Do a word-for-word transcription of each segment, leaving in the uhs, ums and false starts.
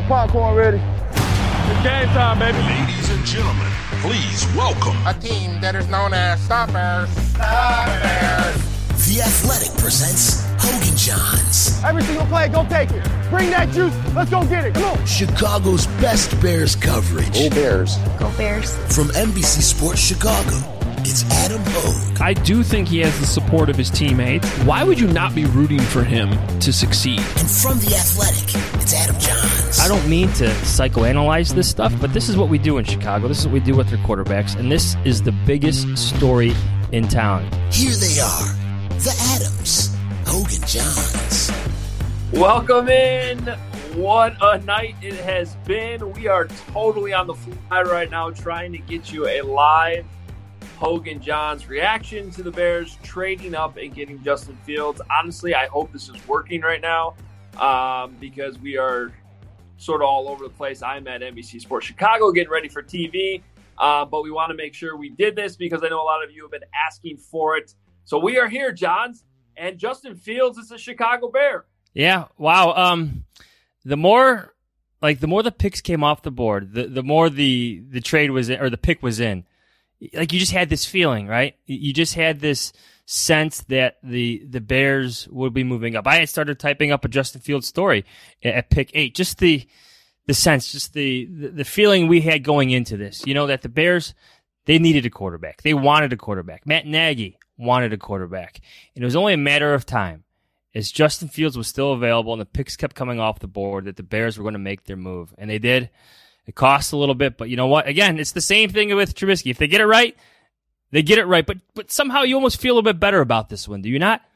popcorn ready. It's game time, baby. Ladies and gentlemen, please welcome a team that is known as Stop Bears. Stop Bears. The Athletic presents Hogan Johns. Every single play, go take it. Bring that juice. Let's go get it. Come on. Chicago's best Bears coverage. Go Bears. Go Bears. From N B C Sports Chicago, it's Adam Hogue. I do think he has the support of his teammates. Why would you not be rooting for him to succeed? And from The Athletic, it's Adam Johns. I don't mean to psychoanalyze this stuff, but this is what we do in Chicago. This is what we do with their quarterbacks, and this is the biggest story in town. Here they are, the Adams, Hogan Johns. Welcome in. What a night it has been. We are totally on the fly right now trying to get you a live Hogan Johns reaction to the Bears trading up and getting Justin Fields. Honestly, I hope this is working right now um, because we are sort of all over the place. I'm at N B C Sports Chicago getting ready for T V, uh, but we want to make sure we did this because I know a lot of you have been asking for it. So we are here, Johns, and Justin Fields is a Chicago Bear. Yeah, wow. Um, the more, like, the more the picks came off the board, the the more the the trade was in, or the pick was in. Like, you just had this feeling, right? You just had this sense that the the Bears would be moving up. I had started typing up a Justin Fields story at pick eight. Just the the sense, just the, the, the feeling we had going into this. You know, that the Bears, they needed a quarterback. They wanted a quarterback. Matt Nagy wanted a quarterback. And it was only a matter of time, as Justin Fields was still available and the picks kept coming off the board, that the Bears were going to make their move. And they did. It costs a little bit, but you know what? Again, it's the same thing with Trubisky. If they get it right, they get it right. But but somehow you almost feel a bit better about this one, do you not?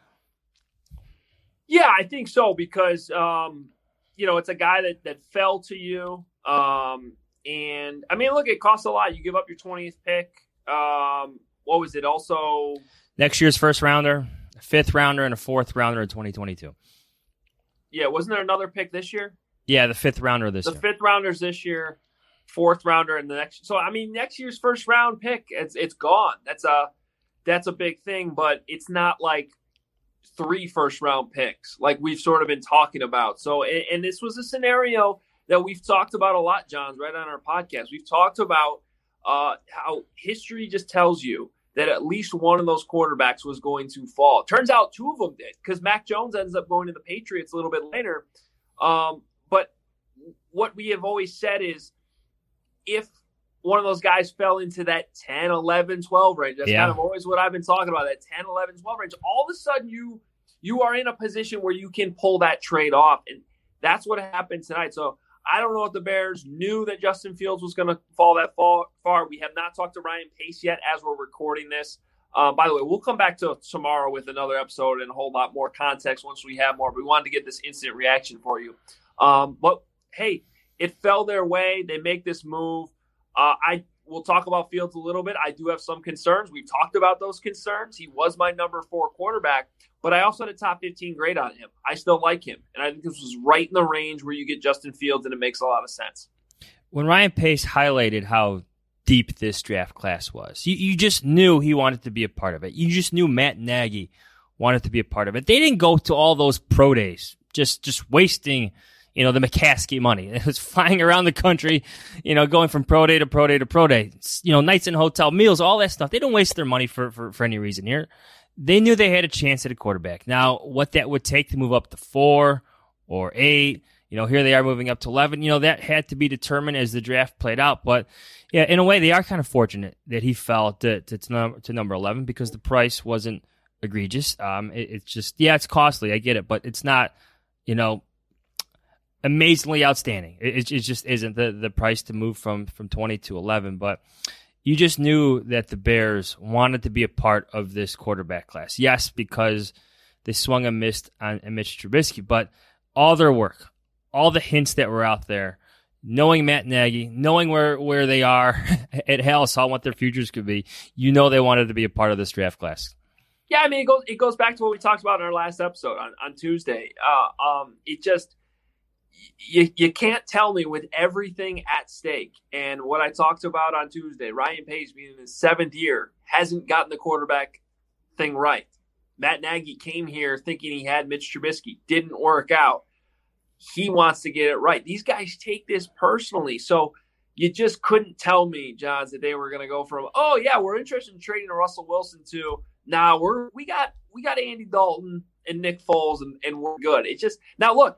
Yeah, I think so because, um, you know, it's a guy that, that fell to you. Um, and, I mean, look, it costs a lot. You give up your twentieth pick. Um, what was it? Also, next year's first rounder, a fifth rounder, and a fourth rounder in twenty twenty-two. Yeah, wasn't there another pick this year? Yeah, the fifth rounder this the year. The fifth rounders this year, fourth rounder in the next. So I mean, next year's first round pick, it's it's gone. That's a that's a big thing, but it's not like three first round picks like we've sort of been talking about. So and, and this was a scenario that we've talked about a lot, Johns, right on our podcast. We've talked about uh, how history just tells you that at least one of those quarterbacks was going to fall. Turns out two of them did because Mac Jones ends up going to the Patriots a little bit later. Um, But what we have always said is if one of those guys fell into that ten, eleven, twelve range, that's yeah. kind of always what I've been talking about, that ten, eleven, twelve range, all of a sudden you you are in a position where you can pull that trade off. And that's what happened tonight. So I don't know if the Bears knew that Justin Fields was going to fall that far. We have not talked to Ryan Pace yet as we're recording this. Um, by the way, we'll come back to tomorrow with another episode and a whole lot more context once we have more. But we wanted to get this instant reaction for you. Um, but hey, it fell their way. They make this move. Uh, I will talk about Fields a little bit. I do have some concerns. We've talked about those concerns. He was my number four quarterback, but I also had a top fifteen grade on him. I still like him. And I think this was right in the range where you get Justin Fields, and it makes a lot of sense. When Ryan Pace highlighted how deep this draft class was, you, you just knew he wanted to be a part of it. You just knew Matt Nagy wanted to be a part of it. They didn't go to all those pro days, just, just wasting you know, the McCaskey money. It was flying around the country, you know, going from pro day to pro day to pro day, you know, nights in hotel, meals, all that stuff. They don't waste their money for, for, for any reason here. They knew they had a chance at a quarterback. Now, what that would take to move up to four or eight, you know, here they are moving up to eleven, you know, that had to be determined as the draft played out. But yeah, in a way, they are kind of fortunate that he fell to, to, to, number, to number eleven because the price wasn't egregious. Um, it, it's just, yeah, it's costly. I get it, but it's not, you know, amazingly outstanding. It, it just isn't the, the price to move from, from twenty to eleven, but you just knew that the Bears wanted to be a part of this quarterback class. Yes, because they swung and missed on Mitch Trubisky, but all their work, all the hints that were out there, knowing Matt Nagy, knowing where, where they are at Halas Hall, what their futures could be, you know they wanted to be a part of this draft class. Yeah, I mean, it goes it goes back to what we talked about in our last episode on, on Tuesday. Uh, um, it just you you can't tell me with everything at stake and what I talked about on Tuesday, Ryan Pace being in his seventh year hasn't gotten the quarterback thing right. Matt Nagy came here thinking he had Mitch Trubisky, didn't work out. he wants to get it right. These guys take this personally. So you just couldn't tell me, Johns, that they were going to go from, oh, yeah, we're interested in trading a Russell Wilson to, nah, we're, we got we got Andy Dalton and Nick Foles, and, and we're good. It's just, now look,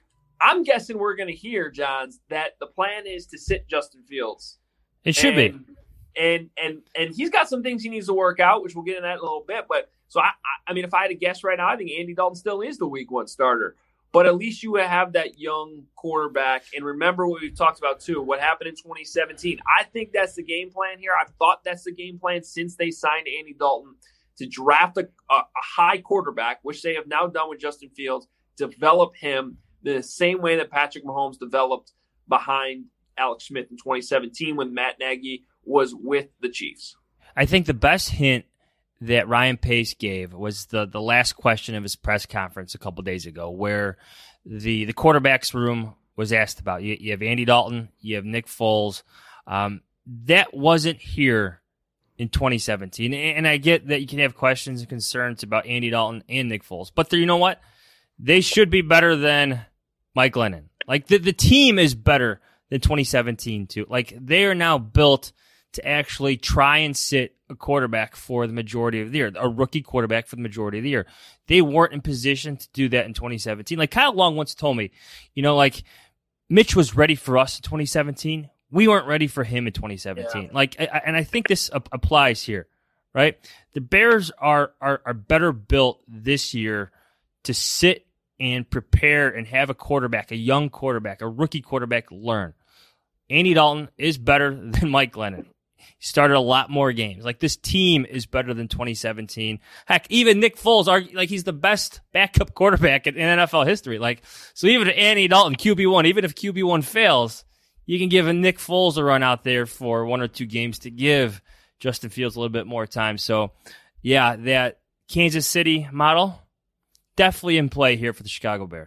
I'm guessing we're going to hear, Johns, that the plan is to sit Justin Fields. It should and, be. And and and he's got some things he needs to work out, which we'll get in that in a little bit. But so, I, I mean, if I had to guess right now, I think Andy Dalton still is the week one starter. But at least you have that young quarterback. And remember what we've talked about, too, what happened in twenty seventeen. I think that's the game plan here. I've thought that's the game plan since they signed Andy Dalton, to draft a, a, a high quarterback, which they have now done with Justin Fields, develop him the same way that Patrick Mahomes developed behind Alex Smith in twenty seventeen when Matt Nagy was with the Chiefs. I think the best hint that Ryan Pace gave was the, the last question of his press conference a couple days ago, where the, the quarterback's room was asked about. You, you have Andy Dalton, you have Nick Foles. Um, that wasn't here in twenty seventeen. And I get that you can have questions and concerns about Andy Dalton and Nick Foles, but you know what? They should be better than Mike Glennon. Like the, the team is better than twenty seventeen too. Like they are now built to actually try and sit a quarterback for the majority of the year, a rookie quarterback for the majority of the year. They weren't in position to do that in twenty seventeen. Like Kyle Long once told me, you know, like Mitch was ready for us in twenty seventeen. We weren't ready for him in twenty seventeen. Yeah. Like, and I think this applies here, right? The Bears are, are, are better built this year to sit and prepare and have a quarterback, a young quarterback, a rookie quarterback learn. Andy Dalton is better than Mike Glennon. He started a lot more games. Like this team is better than twenty seventeen. Heck, even Nick Foles, like he's the best backup quarterback in N F L history. Like, so even Andy Dalton, Q B one, even if Q B one fails, you can give a Nick Foles a run out there for one or two games to give Justin Fields a little bit more time. So, yeah, that Kansas City model definitely in play here for the Chicago Bears.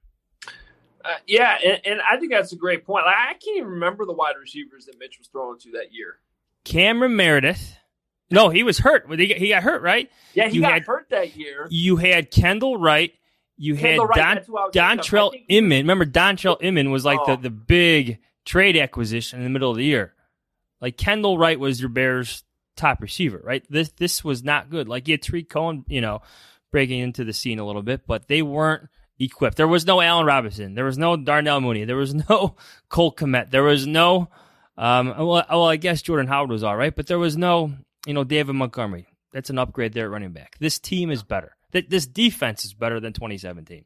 Uh, yeah, and, and I think that's a great point. Like, I can't even remember the wide receivers that Mitch was throwing to that year. Cameron Meredith. No, he was hurt. He got, he got hurt, right? Yeah, he you got had, hurt that year. You had Kendall Wright. You Kendall had Wright, Don, Dontrell Inman. Remember, Dontrell Inman was like oh. the, the big trade acquisition in the middle of the year. Like, Kendall Wright was your Bears' top receiver, right? This this was not good. Like, you had Tariq Cohen, you know, breaking into the scene a little bit, but they weren't equipped. There was no Allen Robinson. There was no Darnell Mooney. There was no Cole Kmet. There was no, um, well, well, I guess Jordan Howard was all right, but there was no, you know, David Montgomery. That's an upgrade there at running back. This team is better. This defense is better than twenty seventeen.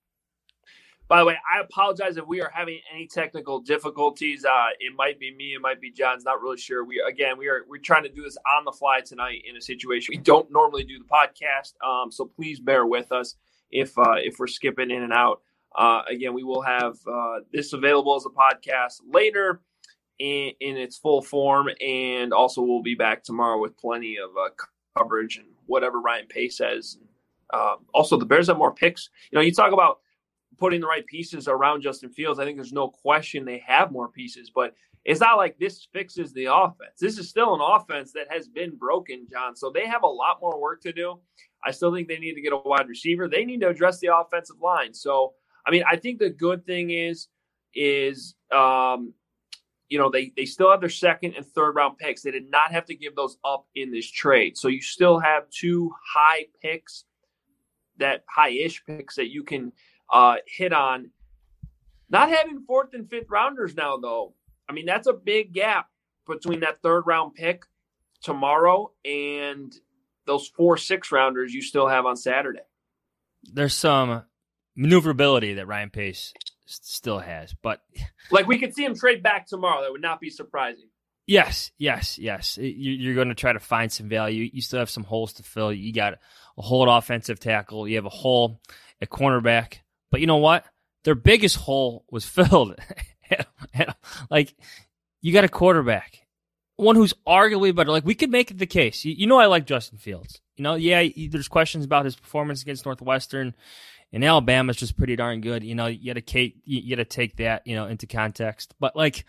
By the way, I apologize if we are having any technical difficulties. Uh, it might be me, it might be John's, not really sure. We again, we are we're trying to do this on the fly tonight in a situation we don't normally do the podcast. Um, so please bear with us if uh, if we're skipping in and out. Uh, again, we will have uh, this available as a podcast later in, in its full form, and also we'll be back tomorrow with plenty of uh, coverage and whatever Ryan Pace says. Um, also, the Bears have more picks. You know, you talk about putting the right pieces around Justin Fields. I think there's no question they have more pieces, but it's not like this fixes the offense. This is still an offense that has been broken, John. So they have a lot more work to do. I still think they need to get a wide receiver. They need to address the offensive line. So, I mean, I think the good thing is, is, um, you know, they, they still have their second and third round picks. They did not have to give those up in this trade. So you still have two high picks, that high-ish picks that you can uh, hit on. Not having fourth and fifth rounders now, though. I mean, that's a big gap between that third round pick tomorrow and those four six rounders you still have on Saturday. There's some maneuverability that Ryan Pace still has, but like we could see him trade back tomorrow. That would not be surprising. Yes, yes, yes. You're going to try to find some value. You still have some holes to fill. You got a hole at offensive tackle. You have a hole at cornerback. But you know what? Their biggest hole was filled. Like, you got a quarterback, one who's arguably better. Like, we could make it the case. You, you know I like Justin Fields. You know, yeah, there's questions about his performance against Northwestern, and Alabama's just pretty darn good. You know, you got to you got to take that, you know, into context. But, like,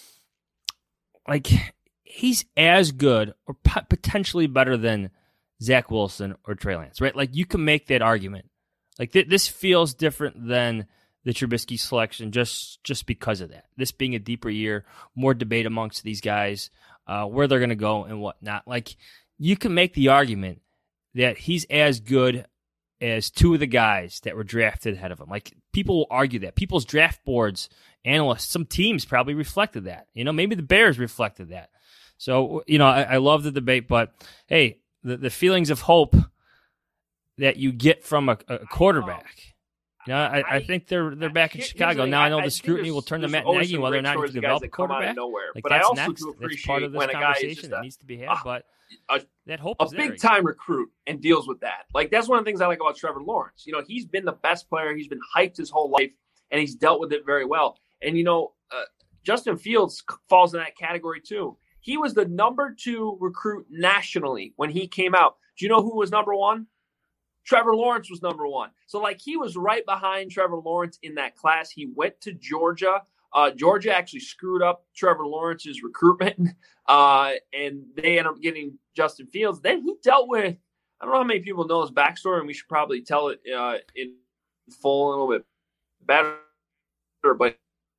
like he's as good or potentially better than Zach Wilson or Trey Lance, right? Like, you can make that argument. Like, th- this feels different than the Trubisky selection just just because of that. This being a deeper year, more debate amongst these guys, uh, where they're going to go and whatnot. Like, you can make the argument that he's as good as two of the guys that were drafted ahead of him. Like, people will argue that. People's draft boards, analysts, some teams probably reflected that. You know, maybe the Bears reflected that. So, you know, I, I love the debate, but hey, the, the feelings of hope that you get from a, a quarterback. You know, I, I think they're they're back in Chicago. Now I know the scrutiny will turn to Matt Nagy whether or not he can develop a quarterback. Like, but that's I also next. do That's part of this when a guy is conversation just that a, needs to be had. uh, But a, that hope a is there. big time recruit and deals with that. Like, that's one of the things I like about Trevor Lawrence. You know, he's been the best player. He's been hyped his whole life, and he's dealt with it very well. And, you know, uh, Justin Fields falls in that category too. He was the number two recruit nationally when he came out. Do you know who was number one? Trevor Lawrence was number one. So, like, he was right behind Trevor Lawrence in that class. He went to Georgia. Uh, Georgia actually screwed up Trevor Lawrence's recruitment, uh, and they ended up getting Justin Fields. Then he dealt with, I don't know how many people know his backstory, and we should probably tell it uh, in full a little bit better, but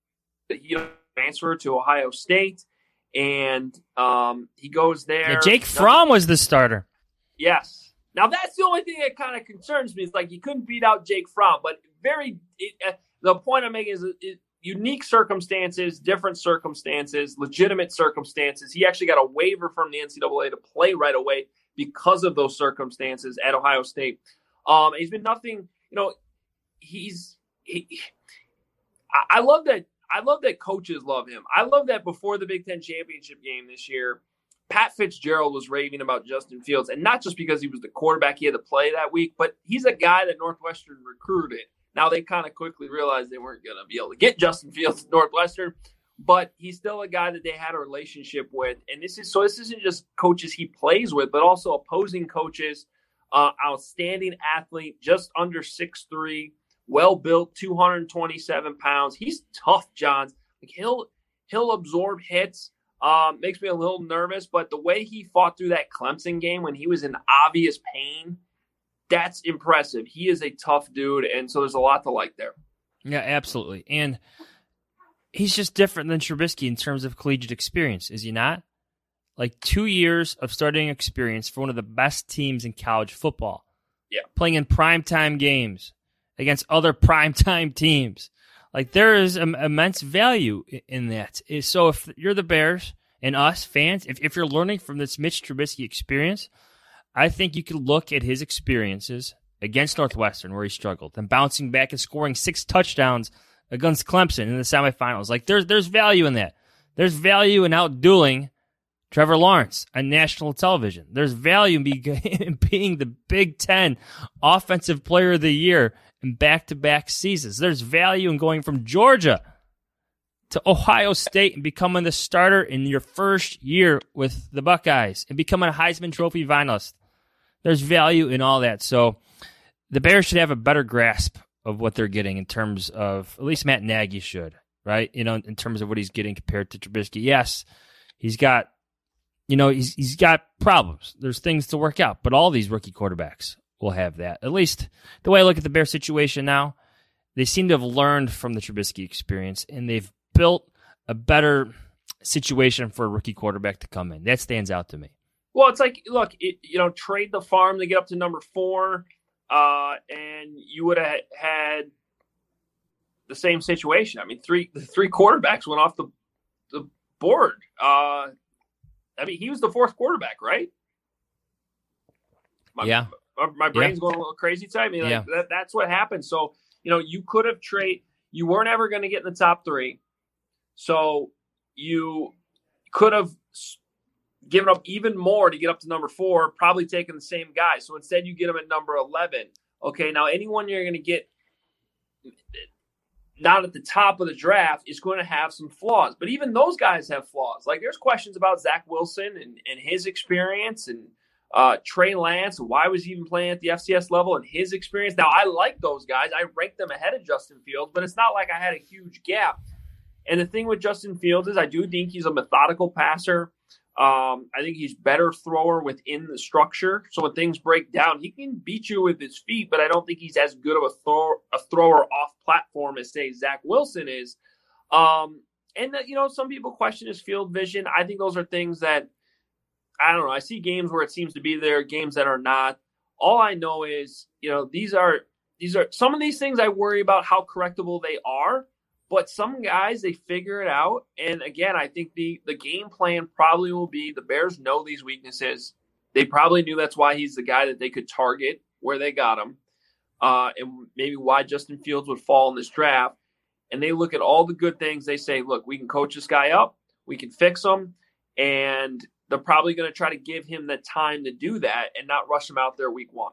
he transferred to Ohio State, and um, he goes there. Yeah, Jake Fromm was the starter. Yes. Now, that's the only thing that kind of concerns me. It's like he couldn't beat out Jake Fromm, but very it, uh, the point I'm making is it, unique circumstances, different circumstances, legitimate circumstances. He actually got a waiver from the N C double A to play right away because of those circumstances at Ohio State. Um, he's been nothing, you know, he's he, I, I love that. I love that coaches love him. I love that before the Big Ten championship game this year, Pat Fitzgerald was raving about Justin Fields, and not just because he was the quarterback he had to play that week, but he's a guy that Northwestern recruited. Now, they kind of quickly realized they weren't going to be able to get Justin Fields at Northwestern, but he's still a guy that they had a relationship with. And this is so this isn't just coaches he plays with, but also opposing coaches, uh, outstanding athlete, just under six three, well-built, two hundred twenty-seven pounds. He's tough, Johns. Like, he'll he'll absorb hits. Um, makes me a little nervous, but the way he fought through that Clemson game when he was in obvious pain, that's impressive. He is a tough dude, and so there's a lot to like there. Yeah, absolutely. And he's just different than Trubisky in terms of collegiate experience, is he not? Like, two years of starting experience for one of the best teams in college football. Yeah. Playing in primetime games against other primetime teams. Like, there is um, immense value in that. So if you're the Bears and us fans, if, if you're learning from this Mitch Trubisky experience, I think you can look at his experiences against Northwestern where he struggled and bouncing back and scoring six touchdowns against Clemson in the semifinals. Like, there's there's value in that. There's value in outdueling Trevor Lawrence on national television. There's value in, be, in being the Big Ten Offensive Player of the Year in back-to-back seasons. There's value in going from Georgia to Ohio State and becoming the starter in your first year with the Buckeyes and becoming a Heisman Trophy finalist. There's value in all that. So the Bears should have a better grasp of what they're getting in terms of, at least Matt Nagy should, right? You know, in terms of what he's getting compared to Trubisky. Yes, he's got, you know, he's he's got problems. There's things to work out, but all these rookie quarterbacks will have that. At least the way I look at the Bears situation now, they seem to have learned from the Trubisky experience, and they've built a better situation for a rookie quarterback to come in. That stands out to me. Well, it's like, look, it, you know, trade the farm to get up to number four, uh, and you would have had the same situation. I mean, three the three quarterbacks went off the the board. Uh, I mean, he was the fourth quarterback, right? My, yeah. My, my brain's yeah. going a little crazy today. I mean, like, yeah. that, that's what happened. So, you know, you could have traded. You weren't ever going to get in the top three. So you could have given up even more to get up to number four, probably taking the same guy. So instead you get him at number eleven. Okay, now anyone you're going to get not at the top of the draft is going to have some flaws. But even those guys have flaws. Like, there's questions about Zach Wilson and, and his experience, and uh, Trey Lance, and why was he even playing at the F C S level, and his experience. Now, I like those guys. I rank them ahead of Justin Fields, but it's not like I had a huge gap. And the thing with Justin Fields is I do think he's a methodical passer. Um, I think he's better thrower within the structure. So when things break down, he can beat you with his feet, but I don't think he's as good of a thrower, a thrower off platform as, say, Zach Wilson is. Um, and, that, you know, some people question his field vision. I think those are things that, I don't know. I see games where it seems to be there, games that are not. All I know is, you know, these are, these are some of these things I worry about how correctable they are. But some guys, they figure it out. And again, I think the, the game plan probably will be the Bears know these weaknesses. They probably knew that's why he's the guy that they could target where they got him. Uh, and maybe why Justin Fields would fall in this draft. And they look at all the good things. They say, look, we can coach this guy up. We can fix him. And they're probably going to try to give him the time to do that and not rush him out there week one.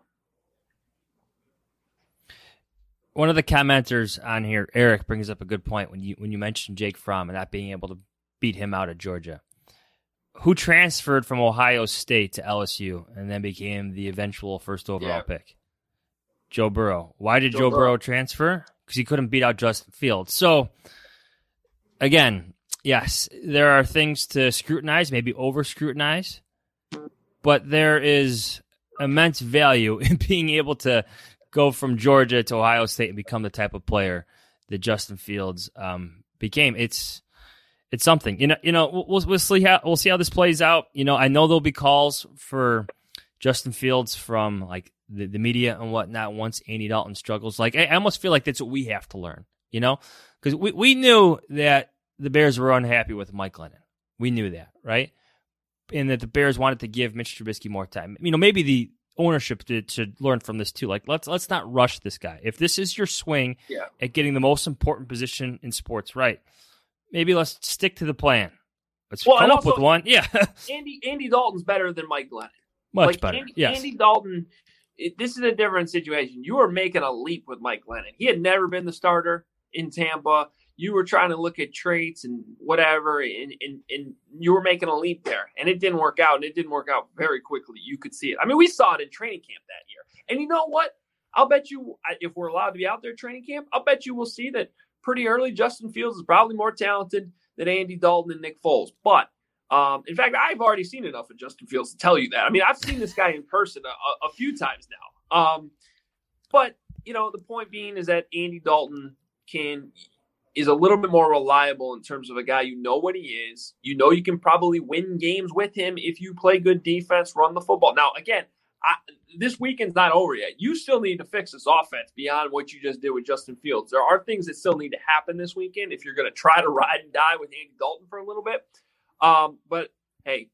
One of the commenters on here, Eric, brings up a good point when you when you mentioned Jake Fromm and not being able to beat him out at Georgia. Who transferred from Ohio State to L S U and then became the eventual first overall yeah. pick? Joe Burrow. Why did Joe, Joe Burrow. Burrow transfer? Because he couldn't beat out Justin Fields. So, again, yes, there are things to scrutinize, maybe over-scrutinize, but there is immense value in being able to go from Georgia to Ohio State and become the type of player that Justin Fields um, became. It's it's something. You know, you know, we'll we'll see how we'll see how this plays out. You know, I know there'll be calls for Justin Fields from like the, the media and whatnot once Andy Dalton struggles. Like I, I almost feel like that's what we have to learn. You know, because we we knew that the Bears were unhappy with Mike Glennon. We knew that, right? And that the Bears wanted to give Mitch Trubisky more time. You know, maybe the ownership to, to learn from this too. Like let's let's not rush this guy. If this is your swing yeah. at getting the most important position in sports, right? Maybe let's stick to the plan. Let's well, come up also, with one. Yeah, Andy Andy Dalton's better than Mike Glennon. Much like, better. Andy, yes. Andy Dalton. It, this is a different situation. You were making a leap with Mike Glennon. He had never been the starter in Tampa. You were trying to look at traits and whatever, and, and, and you were making a leap there. And it didn't work out, and it didn't work out very quickly. You could see it. I mean, we saw it in training camp that year. And you know what? I'll bet you, if we're allowed to be out there training camp, I'll bet you we'll see that pretty early Justin Fields is probably more talented than Andy Dalton and Nick Foles. But, um, in fact, I've already seen enough of Justin Fields to tell you that. I mean, I've seen this guy in person a, a few times now. Um, but, you know, the point being is that Andy Dalton can – is a little bit more reliable in terms of a guy, you know what he is. You know you can probably win games with him if you play good defense, run the football. Now, again, I, this weekend's not over yet. You still need to fix this offense beyond what you just did with Justin Fields. There are things that still need to happen this weekend if you're going to try to ride and die with Andy Dalton for a little bit. Um, but, hey,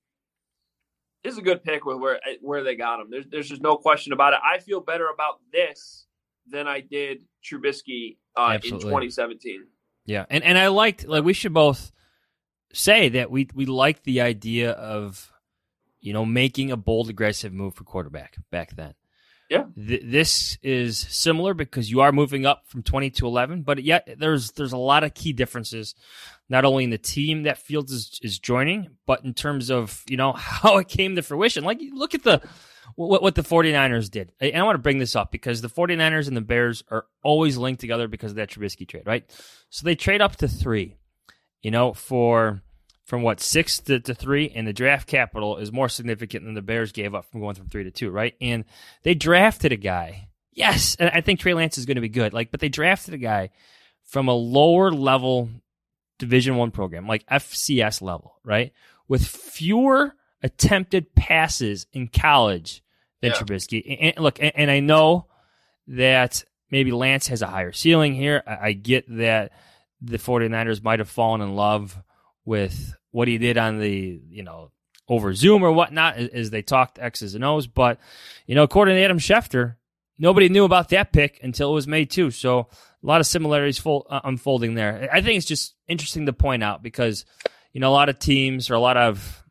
this is a good pick with where where they got him. There's, there's just no question about it. I feel better about this than I did Trubisky uh, in twenty seventeen. Yeah, and and I liked, like, we should both say that we we liked the idea of, you know, making a bold, aggressive move for quarterback back then. Yeah. Th- this is similar because you are moving up from twenty to eleven, but yet there's there's a lot of key differences, not only in the team that Fields is, is joining, but in terms of, you know, how it came to fruition. Like, look at the what, what the 49ers did. And I want to bring this up because the 49ers and the Bears are always linked together because of that Trubisky trade, right? So they trade up to three, you know, for from what, six to, to three, and the draft capital is more significant than the Bears gave up from going from three to two, right? And they drafted a guy. Yes, and I think Trey Lance is going to be good. Like, but they drafted a guy from a lower level Division One program, like F C S level, right? With fewer attempted passes in college than yeah. Trubisky. And, and look, and, and I know that maybe Lance has a higher ceiling here. I, I get that the 49ers might have fallen in love with what he did on the, you know, over Zoom or whatnot as, as they talked X's and O's. But, you know, according to Adam Schefter, nobody knew about that pick until it was made too. So a lot of similarities full, uh, unfolding there. I think it's just interesting to point out because, you know, a lot of teams or a lot of,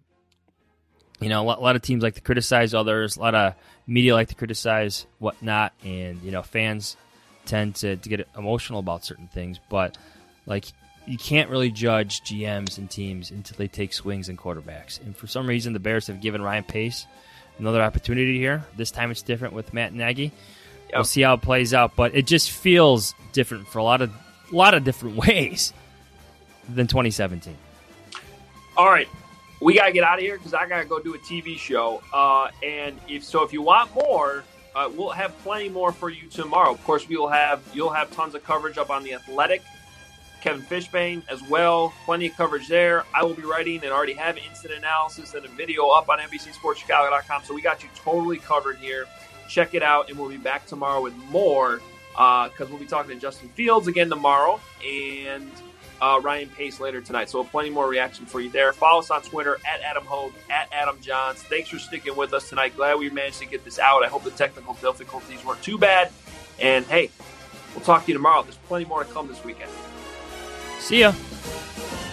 you know, a lot, a lot of teams like to criticize others. A lot of media like to criticize whatnot. And, you know, fans tend to, to get emotional about certain things. But, like, you can't really judge G Ms and teams until they take swings and quarterbacks. And for some reason, the Bears have given Ryan Pace another opportunity here. This time it's different with Matt Nagy. Yep. We'll see how it plays out, but it just feels different for a lot of a lot of different ways than twenty seventeen. All right. we got to get out of here because I got to go do a T V show. Uh, and if so, if you want more, uh, we'll have plenty more for you tomorrow. Of course, we will have you'll have tons of coverage up on The Athletic. Kevin Fishbane as well. Plenty of coverage there. I will be writing and already have instant analysis and a video up on N B C Sports Chicago dot com. So we got you totally covered here. Check it out, and we'll be back tomorrow with more because uh, we'll be talking to Justin Fields again tomorrow and uh, Ryan Pace later tonight. So plenty more reaction for you there. Follow us on Twitter at Adam Hogue, at Adam Johns. Thanks for sticking with us tonight. Glad we managed to get this out. I hope the technical difficulties weren't too bad. And, hey, we'll talk to you tomorrow. There's plenty more to come this weekend. See ya.